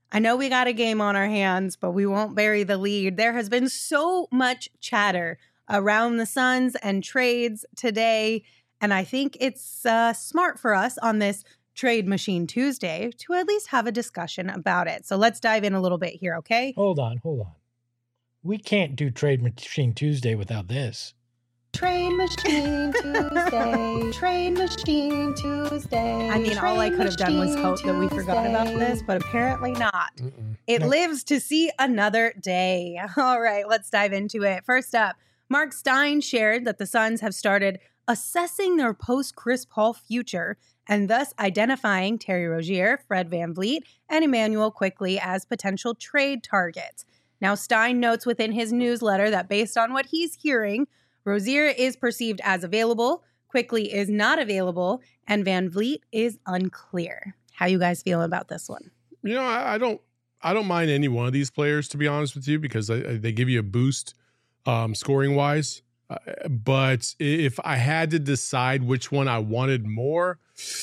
I know we got a game on our hands, but we won't bury the lead. There has been so much chatter around the Suns and trades today, and I think it's smart for us on this Trade Machine Tuesday to at least have a discussion about it. So let's dive in a little bit here, okay? Hold on. We can't do Trade Machine Tuesday without this. Trade Machine Tuesday. Trade Machine Tuesday. I mean, all I could have done was hope that we forgot about this, but apparently not. It lives to see another day. All right, let's dive into it. First up, Mark Stein shared that the Suns have started assessing their post-Chris Paul future and thus identifying Terry Rozier, Fred VanVleet, and Immanuel Quickley as potential trade targets. Now, Stein notes within his newsletter that based on what he's hearing, Rozier is perceived as available, Quickley is not available, and VanVleet is unclear. How you guys feeling about this one? You know, I don't mind any one of these players, to be honest with you, because they give you a boost scoring wise. But if I had to decide which one I wanted more,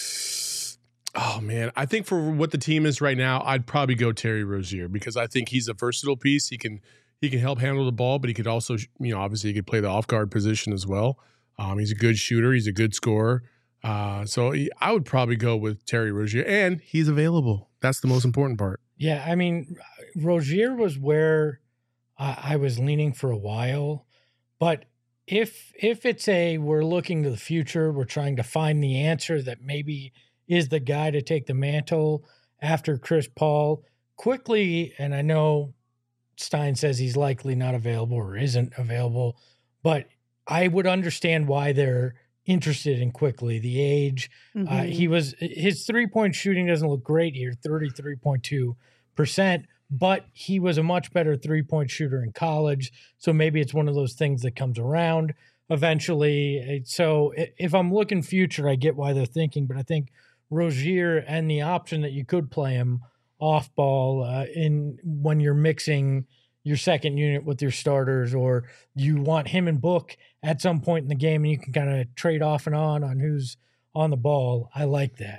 oh man, I think for what the team is right now, I'd probably go Terry Rozier because I think he's a versatile piece. He can help handle the ball, but he could also, obviously he could play the off guard position as well. He's a good shooter. He's a good scorer. So I would probably go with Terry Rozier, and he's available. That's the most important part. Yeah, I mean, Rozier was where I was leaning for a while, but if it's we're looking to the future, we're trying to find the answer that maybe is the guy to take the mantle after Chris Paul quickly, and I know Stein says he's likely not available or isn't available, but I would understand why they're interested in Quickley. The age, his 3-point shooting doesn't look great here, 33.2%, but he was a much better 3-point shooter in college. So maybe it's one of those things that comes around eventually. So if I'm looking future, I get why they're thinking, but I think Rozier and the option that you could play him off ball when you're mixing your second unit with your starters, or you want him and Book at some point in the game and you can kind of trade off and on who's on the ball. I like that.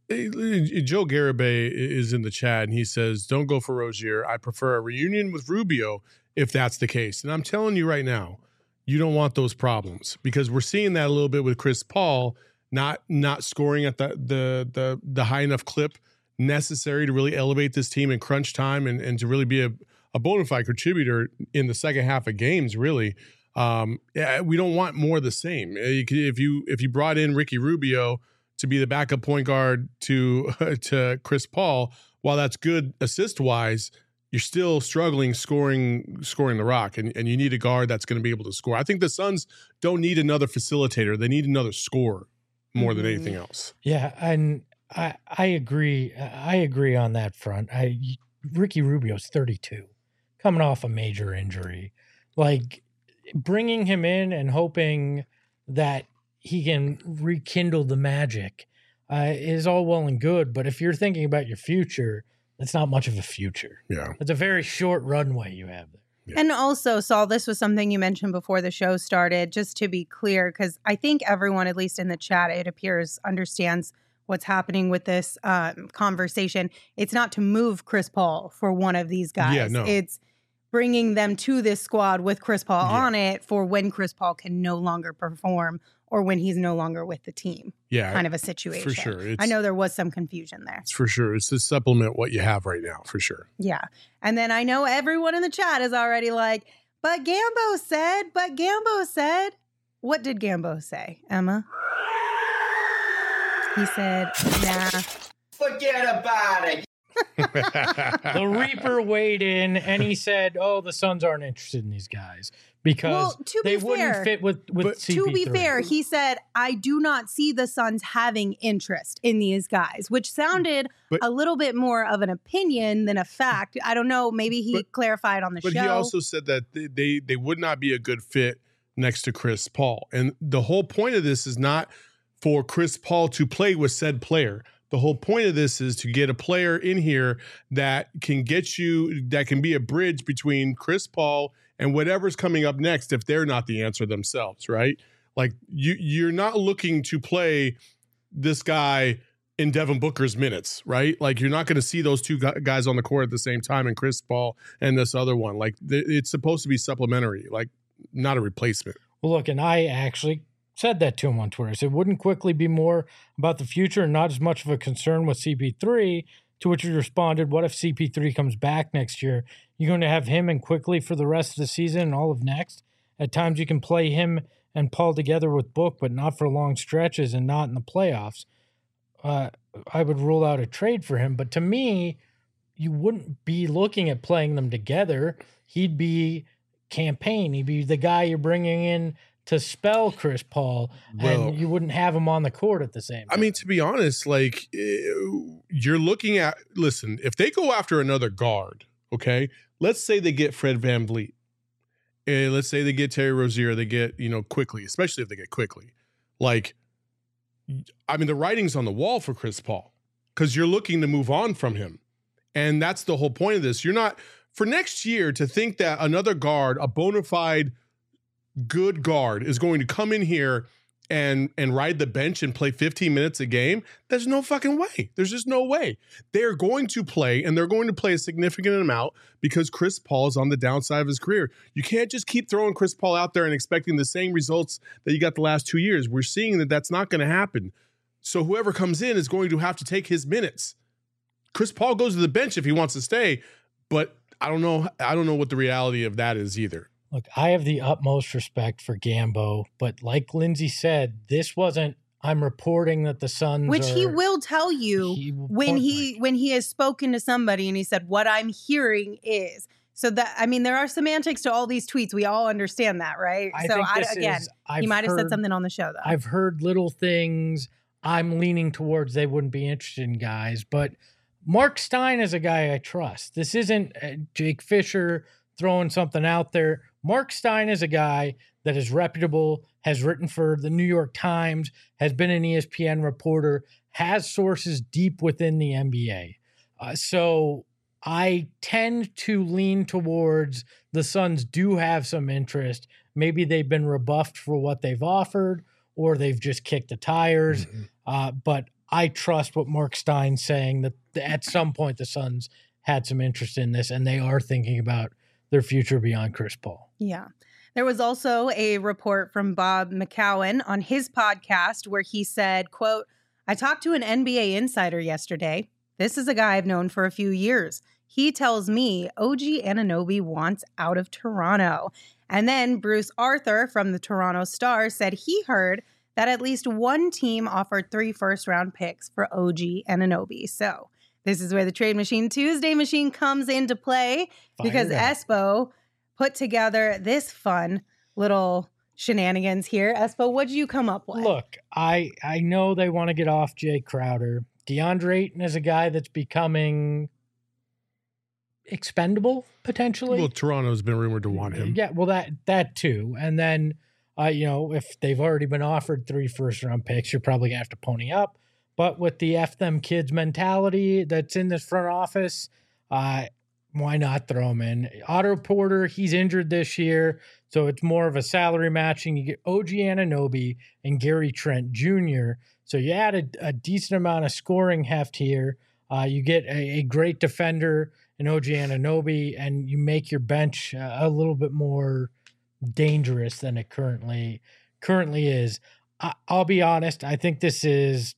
Joe Garibay is in the chat and he says, don't go for Rozier. I prefer a reunion with Rubio if that's the case. And I'm telling you right now, you don't want those problems because we're seeing that a little bit with Chris Paul not scoring at the high enough clip necessary to really elevate this team in crunch time and to really be a bona fide contributor in the second half of games, really. We don't want more of the same. If you brought in Ricky Rubio to be the backup point guard to Chris Paul, while that's good assist-wise, you're still struggling scoring the rock, and you need a guard that's going to be able to score. I think the Suns don't need another facilitator. They need another scorer more than anything else. Yeah, and I agree. I agree on that front. Ricky Rubio's 32, coming off a major injury. Like, bringing him in and hoping that he can rekindle the magic is all well and good. But if you're thinking about your future, that's not much of a future. Yeah. It's a very short runway you have there. Yeah. And also, Saul, this was something you mentioned before the show started, just to be clear, because I think everyone, at least in the chat, it appears, understands what's happening with this conversation. It's not to move Chris Paul for one of these guys. Yeah, no. It's bringing them to this squad with Chris Paul on it for when Chris Paul can no longer perform or when he's no longer with the team. Yeah. Kind of a situation. For sure. I know there was some confusion there. It's for sure. It's to supplement what you have right now, for sure. Yeah. And then I know everyone in the chat is already like, but Gambo said. What did Gambo say, Emma? He said, nah. Forget about it. The Reaper weighed in and he said, oh, the Suns aren't interested in these guys because they wouldn't fit with CP3. To be fair, he said, I do not see the Suns having interest in these guys, which sounded a little bit more of an opinion than a fact. I don't know. Maybe he clarified on the show. But he also said that they would not be a good fit next to Chris Paul. And the whole point of this is not for Chris Paul to play with said player. The whole point of this is to get a player in here that can be a bridge between Chris Paul and whatever's coming up next if they're not the answer themselves, right? Like you're not looking to play this guy in Devin Booker's minutes, right? Like you're not going to see those two guys on the court at the same time, and Chris Paul and this other one. Like it's supposed to be supplementary, like not a replacement. Well, look, and I actually said that to him on Twitter. I said, wouldn't quickly be more about the future and not as much of a concern with CP3, to which he responded, what if CP3 comes back next year? You're going to have him and Quickly for the rest of the season and all of next? At times you can play him and Paul together with Book, but not for long stretches and not in the playoffs. I would rule out a trade for him. But to me, you wouldn't be looking at playing them together. He'd be campaign. He'd be the guy you're bringing in to spell Chris Paul, and you wouldn't have him on the court at the same time. I mean, to be honest, like you're looking at, listen, if they go after another guard, okay, let's say they get Fred VanVleet. Let's say they get Terry Rozier, they get, Quickly, especially if they get Quickly. Like, I mean, the writing's on the wall for Chris Paul because you're looking to move on from him. And that's the whole point of this. You're not, for next year, to think that another guard, a bona fide good guard, is going to come in here and ride the bench and play 15 minutes a game, there's no fucking way. There's just no way. They're going to play, and they're going to play a significant amount because Chris Paul is on the downside of his career. You can't just keep throwing Chris Paul out there and expecting the same results that you got the last 2 years. We're seeing that that's not going to happen. So whoever comes in is going to have to take his minutes. Chris Paul goes to the bench if he wants to stay, but I don't know what the reality of that is either. Look, I have the utmost respect for Gambo, but like Lindsay said, this wasn't, I'm reporting that the Suns Which he will tell you when he has spoken to somebody and he said, what I'm hearing is. So that, I mean, there are semantics to all these tweets. We all understand that, right? He might have said something on the show, though. I've heard little things I'm leaning towards they wouldn't be interested in, guys. But Mark Stein is a guy I trust. This isn't Jake Fisher throwing something out there. Mark Stein is a guy that is reputable, has written for the New York Times, has been an ESPN reporter, has sources deep within the NBA. So I tend to lean towards the Suns do have some interest. Maybe they've been rebuffed for what they've offered, or they've just kicked the tires. But I trust what Mark Stein's saying, that at some point the Suns had some interest in this, and they are thinking about their future beyond Chris Paul. Yeah. There was also a report from Bob McCowan on his podcast where he said, quote, I talked to an NBA insider yesterday. This is a guy I've known for a few years. He tells me OG Anunoby wants out of Toronto. And then Bruce Arthur from the Toronto Star said he heard that at least one team offered 3 first-round picks for OG Anunoby. So this is where the Trade Machine Tuesday machine comes into play because Espo put together this fun little shenanigans here. Espo, what did you come up with? Look, I know they want to get off Jay Crowder. DeAndre Ayton is a guy that's becoming expendable, potentially. Well, Toronto's been rumored to want him. Yeah, well, that too. And then, if they've already been offered 3 first-round picks, you're probably going to have to pony up. But with the F them kids mentality that's in this front office, why not throw him in? Otto Porter, he's injured this year, so it's more of a salary matching. You get OG Anunoby and Gary Trent Jr., so you add a decent amount of scoring heft here. You get a great defender in OG Anunoby, and you make your bench a little bit more dangerous than it currently is. I'll be honest, I think this is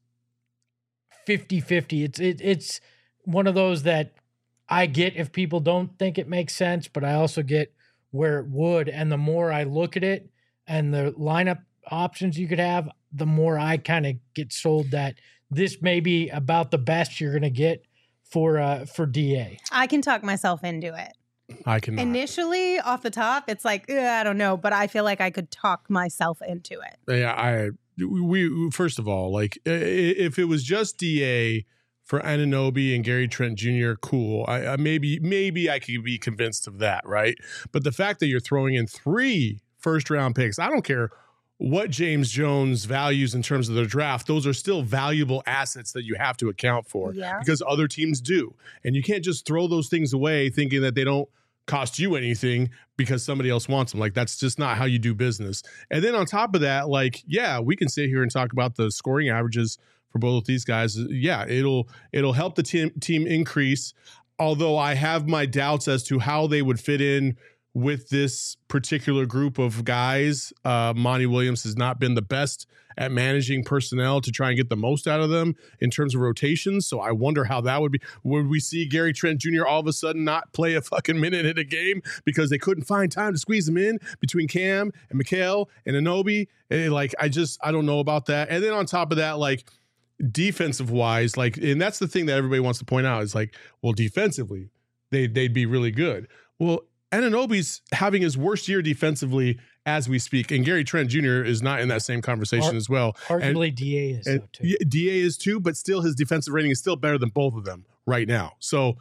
50-50. It's one of those that I get if people don't think it makes sense, but I also get where it would. And the more I look at it and the lineup options you could have, the more I kind of get sold that this may be about the best you're going to get for DA. I can talk myself into it. I can initially off the top. It's like, I don't know, but I feel like I could talk myself into it. Yeah, we first of all, like if it was just DA for Anunoby and Gary Trent Jr., cool. I maybe I could be convinced of that, right? But the fact that you're throwing in 3 first-round picks, I don't care what James Jones values in terms of their draft, those are still valuable assets that you have to account for because other teams do. And you can't just throw those things away thinking that they don't cost you anything because somebody else wants them. Like, that's just not how you do business. And then on top of that, like, yeah, we can sit here and talk about the scoring averages for both these guys. Yeah, it'll help the team increase. Although I have my doubts as to how they would fit in with this particular group of guys. Monty Williams has not been the best at managing personnel to try and get the most out of them in terms of rotations. So I wonder how that would be. Would we see Gary Trent Jr. all of a sudden not play a fucking minute in a game because they couldn't find time to squeeze him in between Cam and Mikal and Anunoby? And I don't know about that. And then on top of that, like defensive wise, and that's the thing that everybody wants to point out is like, well, defensively, they'd be really good. Well, Anunoby's having his worst year defensively as we speak, and Gary Trent Jr. is not in that same conversation as well. Arguably, DA is though, too. Yeah, DA is too, but still his defensive rating is still better than both of them right now. So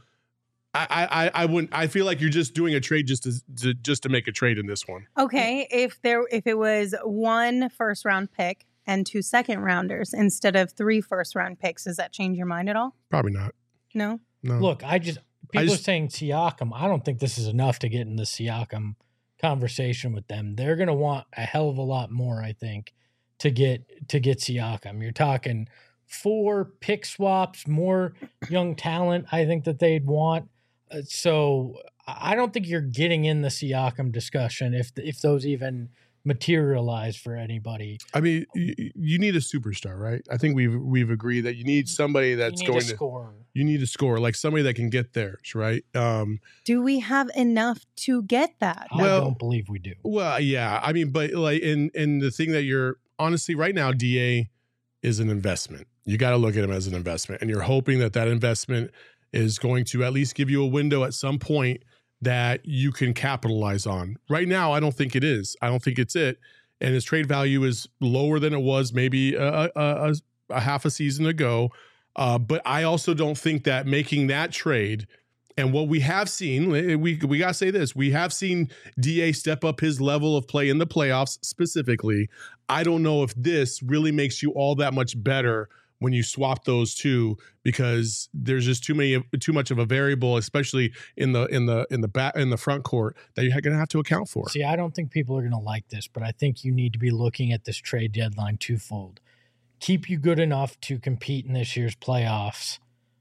I wouldn't. I feel like you're just doing a trade just to make a trade in this one. Okay, if it was 1 first-round pick and 2 second-rounders instead of 3 first-round picks, does that change your mind at all? Probably not. No. Look, people are saying Siakam. I don't think this is enough to get in the Siakam conversation with them. They're going to want a hell of a lot more, I think, to get Siakam. You're talking 4 pick swaps, more young talent. I think that they'd want. So I don't think you're getting in the Siakam discussion if those even materialize for anybody. I mean, you need a superstar, right? I think we've agreed that you need somebody that's going to score. You need to score, like somebody that can get theirs, right? Do we have enough to get that? I don't believe we do. Well, yeah. I mean, but like in the thing that you're honestly right now, DA is an investment. You got to look at him as an investment, and you're hoping that investment is going to at least give you a window at some point that you can capitalize on. Right now, I don't think it is. I don't think it's it. And his trade value is lower than it was maybe a half a season ago. But I also don't think that making that trade and what we have seen, we got to say this, we have seen DA step up his level of play in the playoffs specifically. I don't know if this really makes you all that much better when you swap those two, because there's just too much of a variable, especially in the front court, that you're going to have to account for. See, I don't think people are going to like this, but I think you need to be looking at this trade deadline twofold. Keep you good enough to compete in this year's playoffs,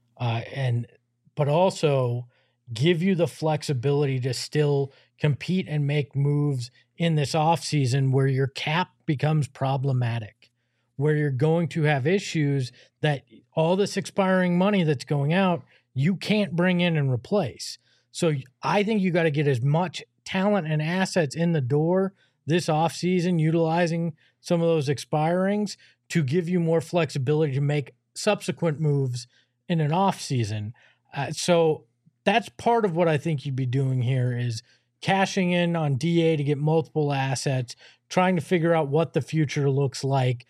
but also give you the flexibility to still compete and make moves in this offseason where your cap becomes problematic, where you're going to have issues that all this expiring money that's going out, you can't bring in and replace. So I think you got to get as much talent and assets in the door this offseason, utilizing some of those expirings to give you more flexibility to make subsequent moves in an offseason. So that's part of what I think you'd be doing here is cashing in on DA to get multiple assets, trying to figure out what the future looks like.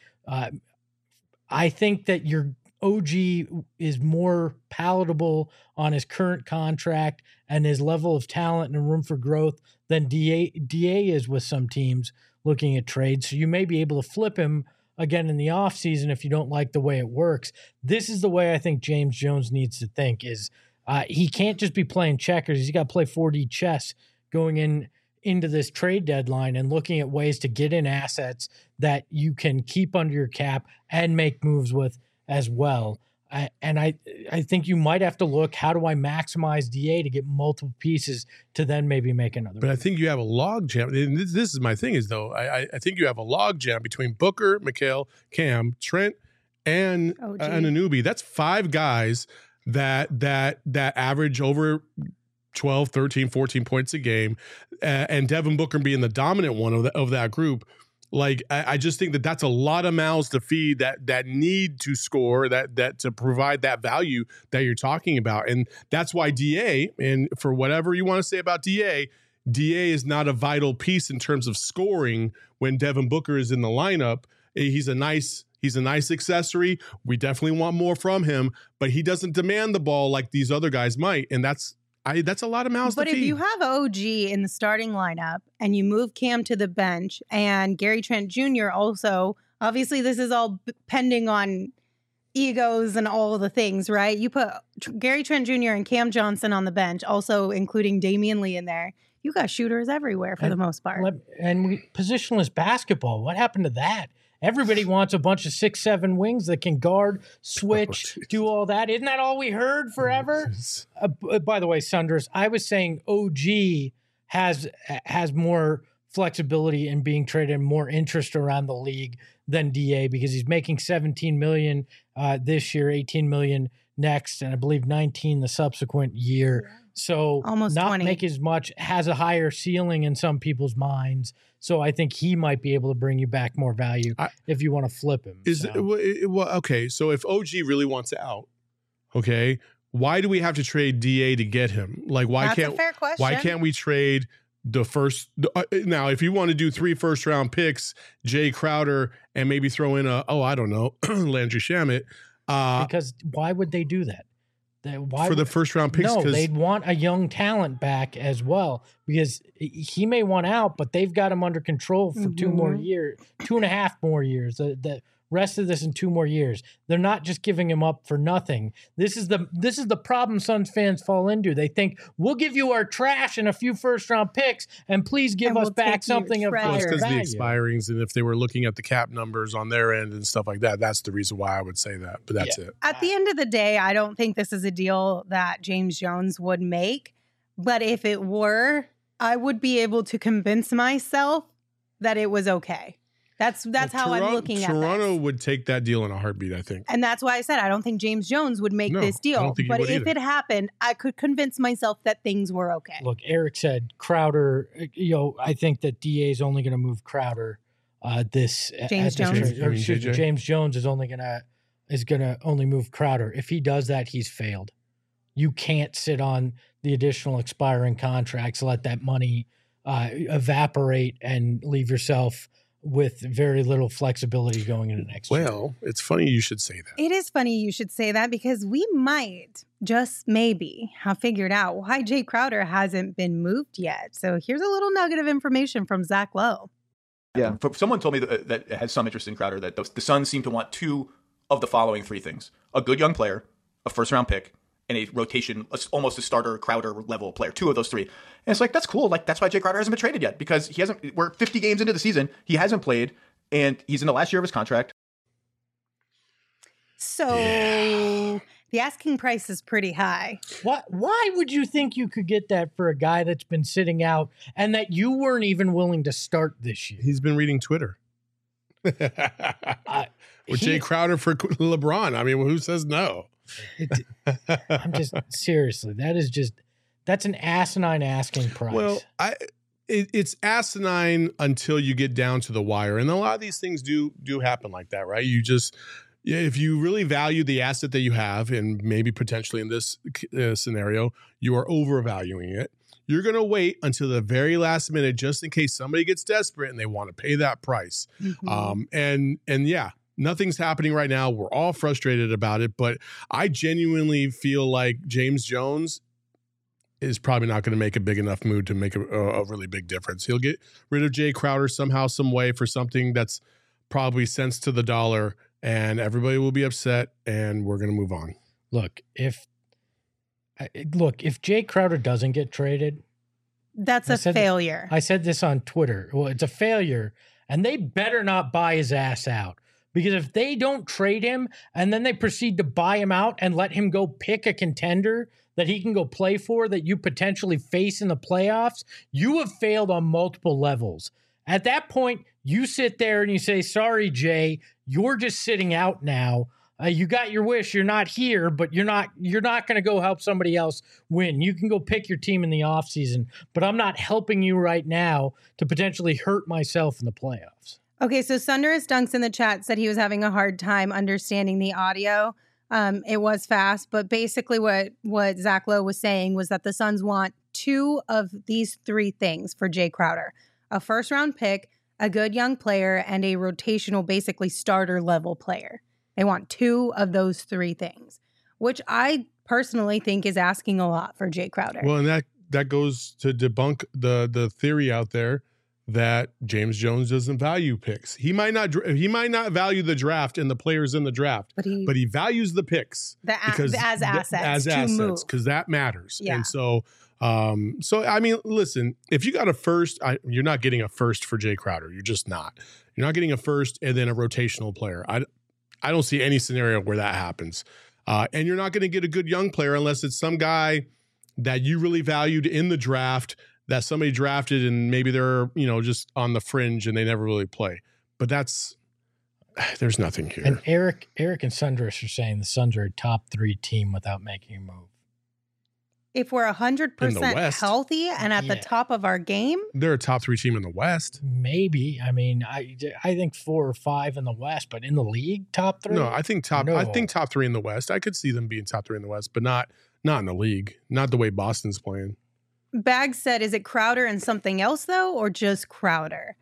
I think that your OG is more palatable on his current contract and his level of talent and room for growth than DA is with some teams looking at trades. So you may be able to flip him again in the offseason if you don't like the way it works. This is the way I think James Jones needs to think is he can't just be playing checkers. He's got to play 4D chess going into this trade deadline and looking at ways to get in assets that you can keep under your cap and make moves with as well. I think you might have to look, how do I maximize DA to get multiple pieces to then maybe make another But move. I think you have a log jam. And this is my thing is, though, I think you have a log jam between Booker, Mikal, Cam, Trent, and Anunoby. That's 5 guys that average over 12, 13, 14 points a game, and Devin Booker being the dominant one of that group. Like, I just think that's a lot of mouths to feed that need to score, that to provide that value that you're talking about. And that's why DA, and for whatever you want to say about DA is not a vital piece in terms of scoring when Devin Booker is in the lineup. He's a nice accessory. We definitely want more from him, but he doesn't demand the ball like these other guys might. And that's a lot of mouths to feed. But if you have OG in the starting lineup and you move Cam to the bench and Gary Trent Jr. also, obviously this is all pending on egos and all the things, right? You put Gary Trent Jr. and Cam Johnson on the bench, also including Damian Lee in there. You got shooters everywhere for the most part. And positionless basketball, what happened to that? Everybody wants a bunch of 6'7" wings that can guard, switch, do all that. Isn't that all we heard forever? By the way, Sunders, I was saying OG has more flexibility in being traded and more interest around the league than DA because he's making $17 million this year, $18 million next, and I believe 19 the subsequent year. So almost not 20. make as much, has a higher ceiling in some people's minds. So I think he might be able to bring you back more value if you want to flip him. Okay, so if OG really wants out, okay, why do we have to trade DA to get him? Like, That's a fair question. Why can't we trade the first? Now, if you want to do 3 first-round picks, Jay Crowder, and maybe throw in I don't know, Landry Shamet. Because why would they do that? For the first-round picks? No, they'd want a young talent back as well because he may want out, but they've got him under control for 2 more years, 2.5 more years. The rest of this in 2 more years. They're not just giving him up for nothing. This is the problem Suns fans fall into. They think we'll give you our trash and a few first-round picks, and please give us back something of higher because value. The expirings, and if they were looking at the cap numbers on their end and stuff like that, that's the reason why I would say that. But that's it. At the end of the day, I don't think this is a deal that James Jones would make. But if it were, I would be able to convince myself that it was okay. That's how I'm looking at it. Toronto would take that deal in a heartbeat, I think. And that's why I said I don't think James Jones would make this deal. I don't think but he would if it happened, I could convince myself that things were okay. Look, Eric said Crowder, I think that DA is only going to move Crowder James Jones. James Jones is going to only move Crowder. If he does that, he's failed. You can't sit on the additional expiring contracts, let that money evaporate and leave yourself with very little flexibility going into next year. Well, it's funny you should say that. It is funny you should say that because we might, just maybe, have figured out why Jay Crowder hasn't been moved yet. So here's a little nugget of information from Zach Lowe. Yeah, someone told me that has some interest in Crowder, that the Suns seem to want 2 of the following 3 things: a good young player, a first-round pick, and a rotation, almost a starter Crowder level player. 2 of those 3. And it's like, that's cool. Like, that's why Jay Crowder hasn't been traded yet, because we're 50 games into the season. He hasn't played, and he's in the last year of his contract. So the asking price is pretty high. Why would you think you could get that for a guy that's been sitting out and that you weren't even willing to start this year? He's been reading Twitter. Jay Crowder for LeBron. I mean, who says no? I'm just seriously, that's an asinine asking price. Well, it's asinine until you get down to the wire, and a lot of these things do happen like that, right? If you really value the asset that you have, and maybe potentially in this scenario, you are overvaluing it. You're going to wait until the very last minute just in case somebody gets desperate and they want to pay that price. And yeah. Nothing's happening right now. We're all frustrated about it, but I genuinely feel like James Jones is probably not going to make a big enough move to make a really big difference. He'll get rid of Jay Crowder somehow, some way for something that's probably cents to the dollar, and everybody will be upset, and we're going to move on. Look, if Jay Crowder doesn't get traded, that's a failure. I said this on Twitter. Well, it's a failure, and they better not buy his ass out. Because if they don't trade him and then they proceed to buy him out and let him go pick a contender that he can go play for that you potentially face in the playoffs, you have failed on multiple levels. At that point, you sit there and you say, sorry, Jay, you're just sitting out now. You got your wish. You're not here, but you're not going to go help somebody else win. You can go pick your team in the offseason, but I'm not helping you right now to potentially hurt myself in the playoffs. Okay, so Sunderous Dunks in the chat said he was having a hard time understanding the audio. It was fast, but basically what Zach Lowe was saying was that the Suns want 2 of these 3 things for Jay Crowder: a first-round pick, a good young player, and a rotational, basically starter-level player. They want 2 of those 3 things, which I personally think is asking a lot for Jay Crowder. Well, and that goes to debunk the theory out there that James Jones doesn't value picks. He might not value the draft and the players in the draft, but he values the picks as assets because that matters. Yeah. And so I mean, listen, if you got a first, you're not getting a first for Jay Crowder. You're just not. You're not getting a first and then a rotational player. I don't see any scenario where that happens. And you're not going to get a good young player unless it's some guy that you really valued in the draft that somebody drafted and maybe they're, just on the fringe and they never really play. But there's nothing here. And Eric and Sundress are saying the Suns are a top 3 team without making a move. If we're 100% healthy and at the top of our game, they're a top 3 team in the West. Maybe. I mean, I think 4 or 5 in the West, but in the league, top 3. No, I think top 3 in the West. I could see them being top 3 in the West, but not in the league. Not the way Boston's playing. Bags said, "Is it Crowder and something else though, or just Crowder?"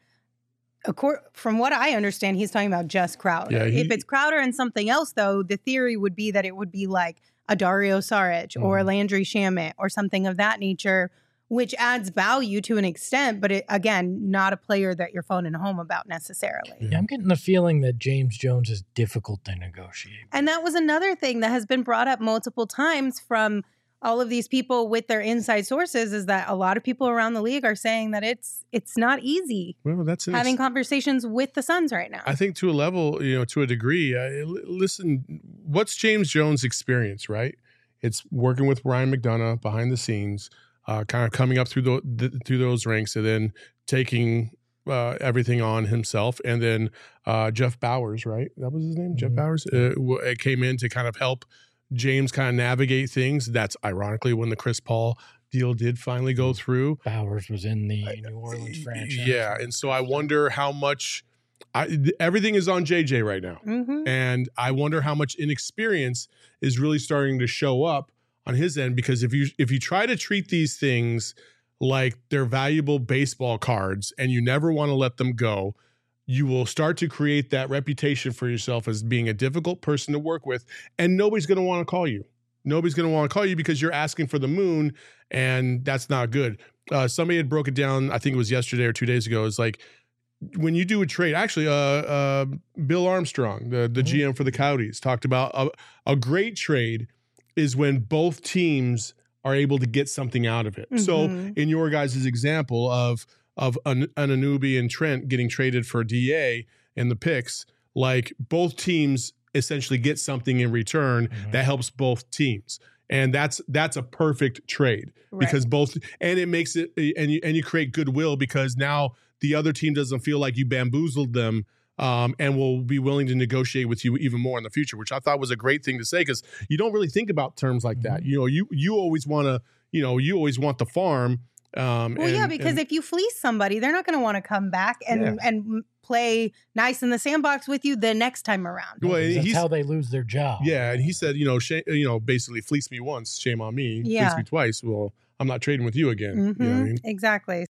From what I understand, he's talking about just Crowder. Yeah, if it's Crowder and something else though, the theory would be that it would be like a Dario Saric or Landry Shamet or something of that nature, which adds value to an extent, but again, not a player that you're phoning home about necessarily. Yeah, I'm getting the feeling that James Jones is difficult to negotiate. And that was another thing that has been brought up multiple times from all of these people with their inside sources, is that a lot of people around the league are saying that it's not easy. Well, that's having conversations with the Suns right now. I think to a level, to a degree. Listen, what's James Jones' experience, right? It's working with Ryan McDonough behind the scenes, kind of coming up through those ranks, and then taking everything on himself. And then Jeff Bowers, right? That was his name, Jeff Bowers, came in to kind of help James kind of navigate things. That's ironically when the Chris Paul deal did finally go through. Bowers was in the New Orleans franchise. Yeah, and so I wonder how much everything is on JJ right now. And I wonder how much inexperience is really starting to show up on his end, because if you try to treat these things like they're valuable baseball cards and you never want to let them go, you will start to create that reputation for yourself as being a difficult person to work with, and nobody's going to want to call you. Nobody's going to want to call you because you're asking for the moon, and that's not good. Somebody had broke it down, I think it was yesterday or 2 days ago. It's like when you do a trade, actually, Bill Armstrong, the GM for the Coyotes, talked about a great trade is when both teams are able to get something out of it. So in your guys' example of Anunoby and Trent getting traded for DA and the picks, like both teams essentially get something in return that helps both teams. And that's a perfect trade because and it makes it, and you create goodwill because now the other team doesn't feel like you bamboozled them, and will be willing to negotiate with you even more in the future, which I thought was a great thing to say, because you don't really think about terms like that. You always want to, you always want the farm. Because if you fleece somebody, they're not going to want to come back and play nice in the sandbox with you the next time around. Well, that's how they lose their job. Yeah, and he said, basically fleece me once, shame on me. Yeah. Fleece me twice. Well, I'm not trading with you again. Exactly.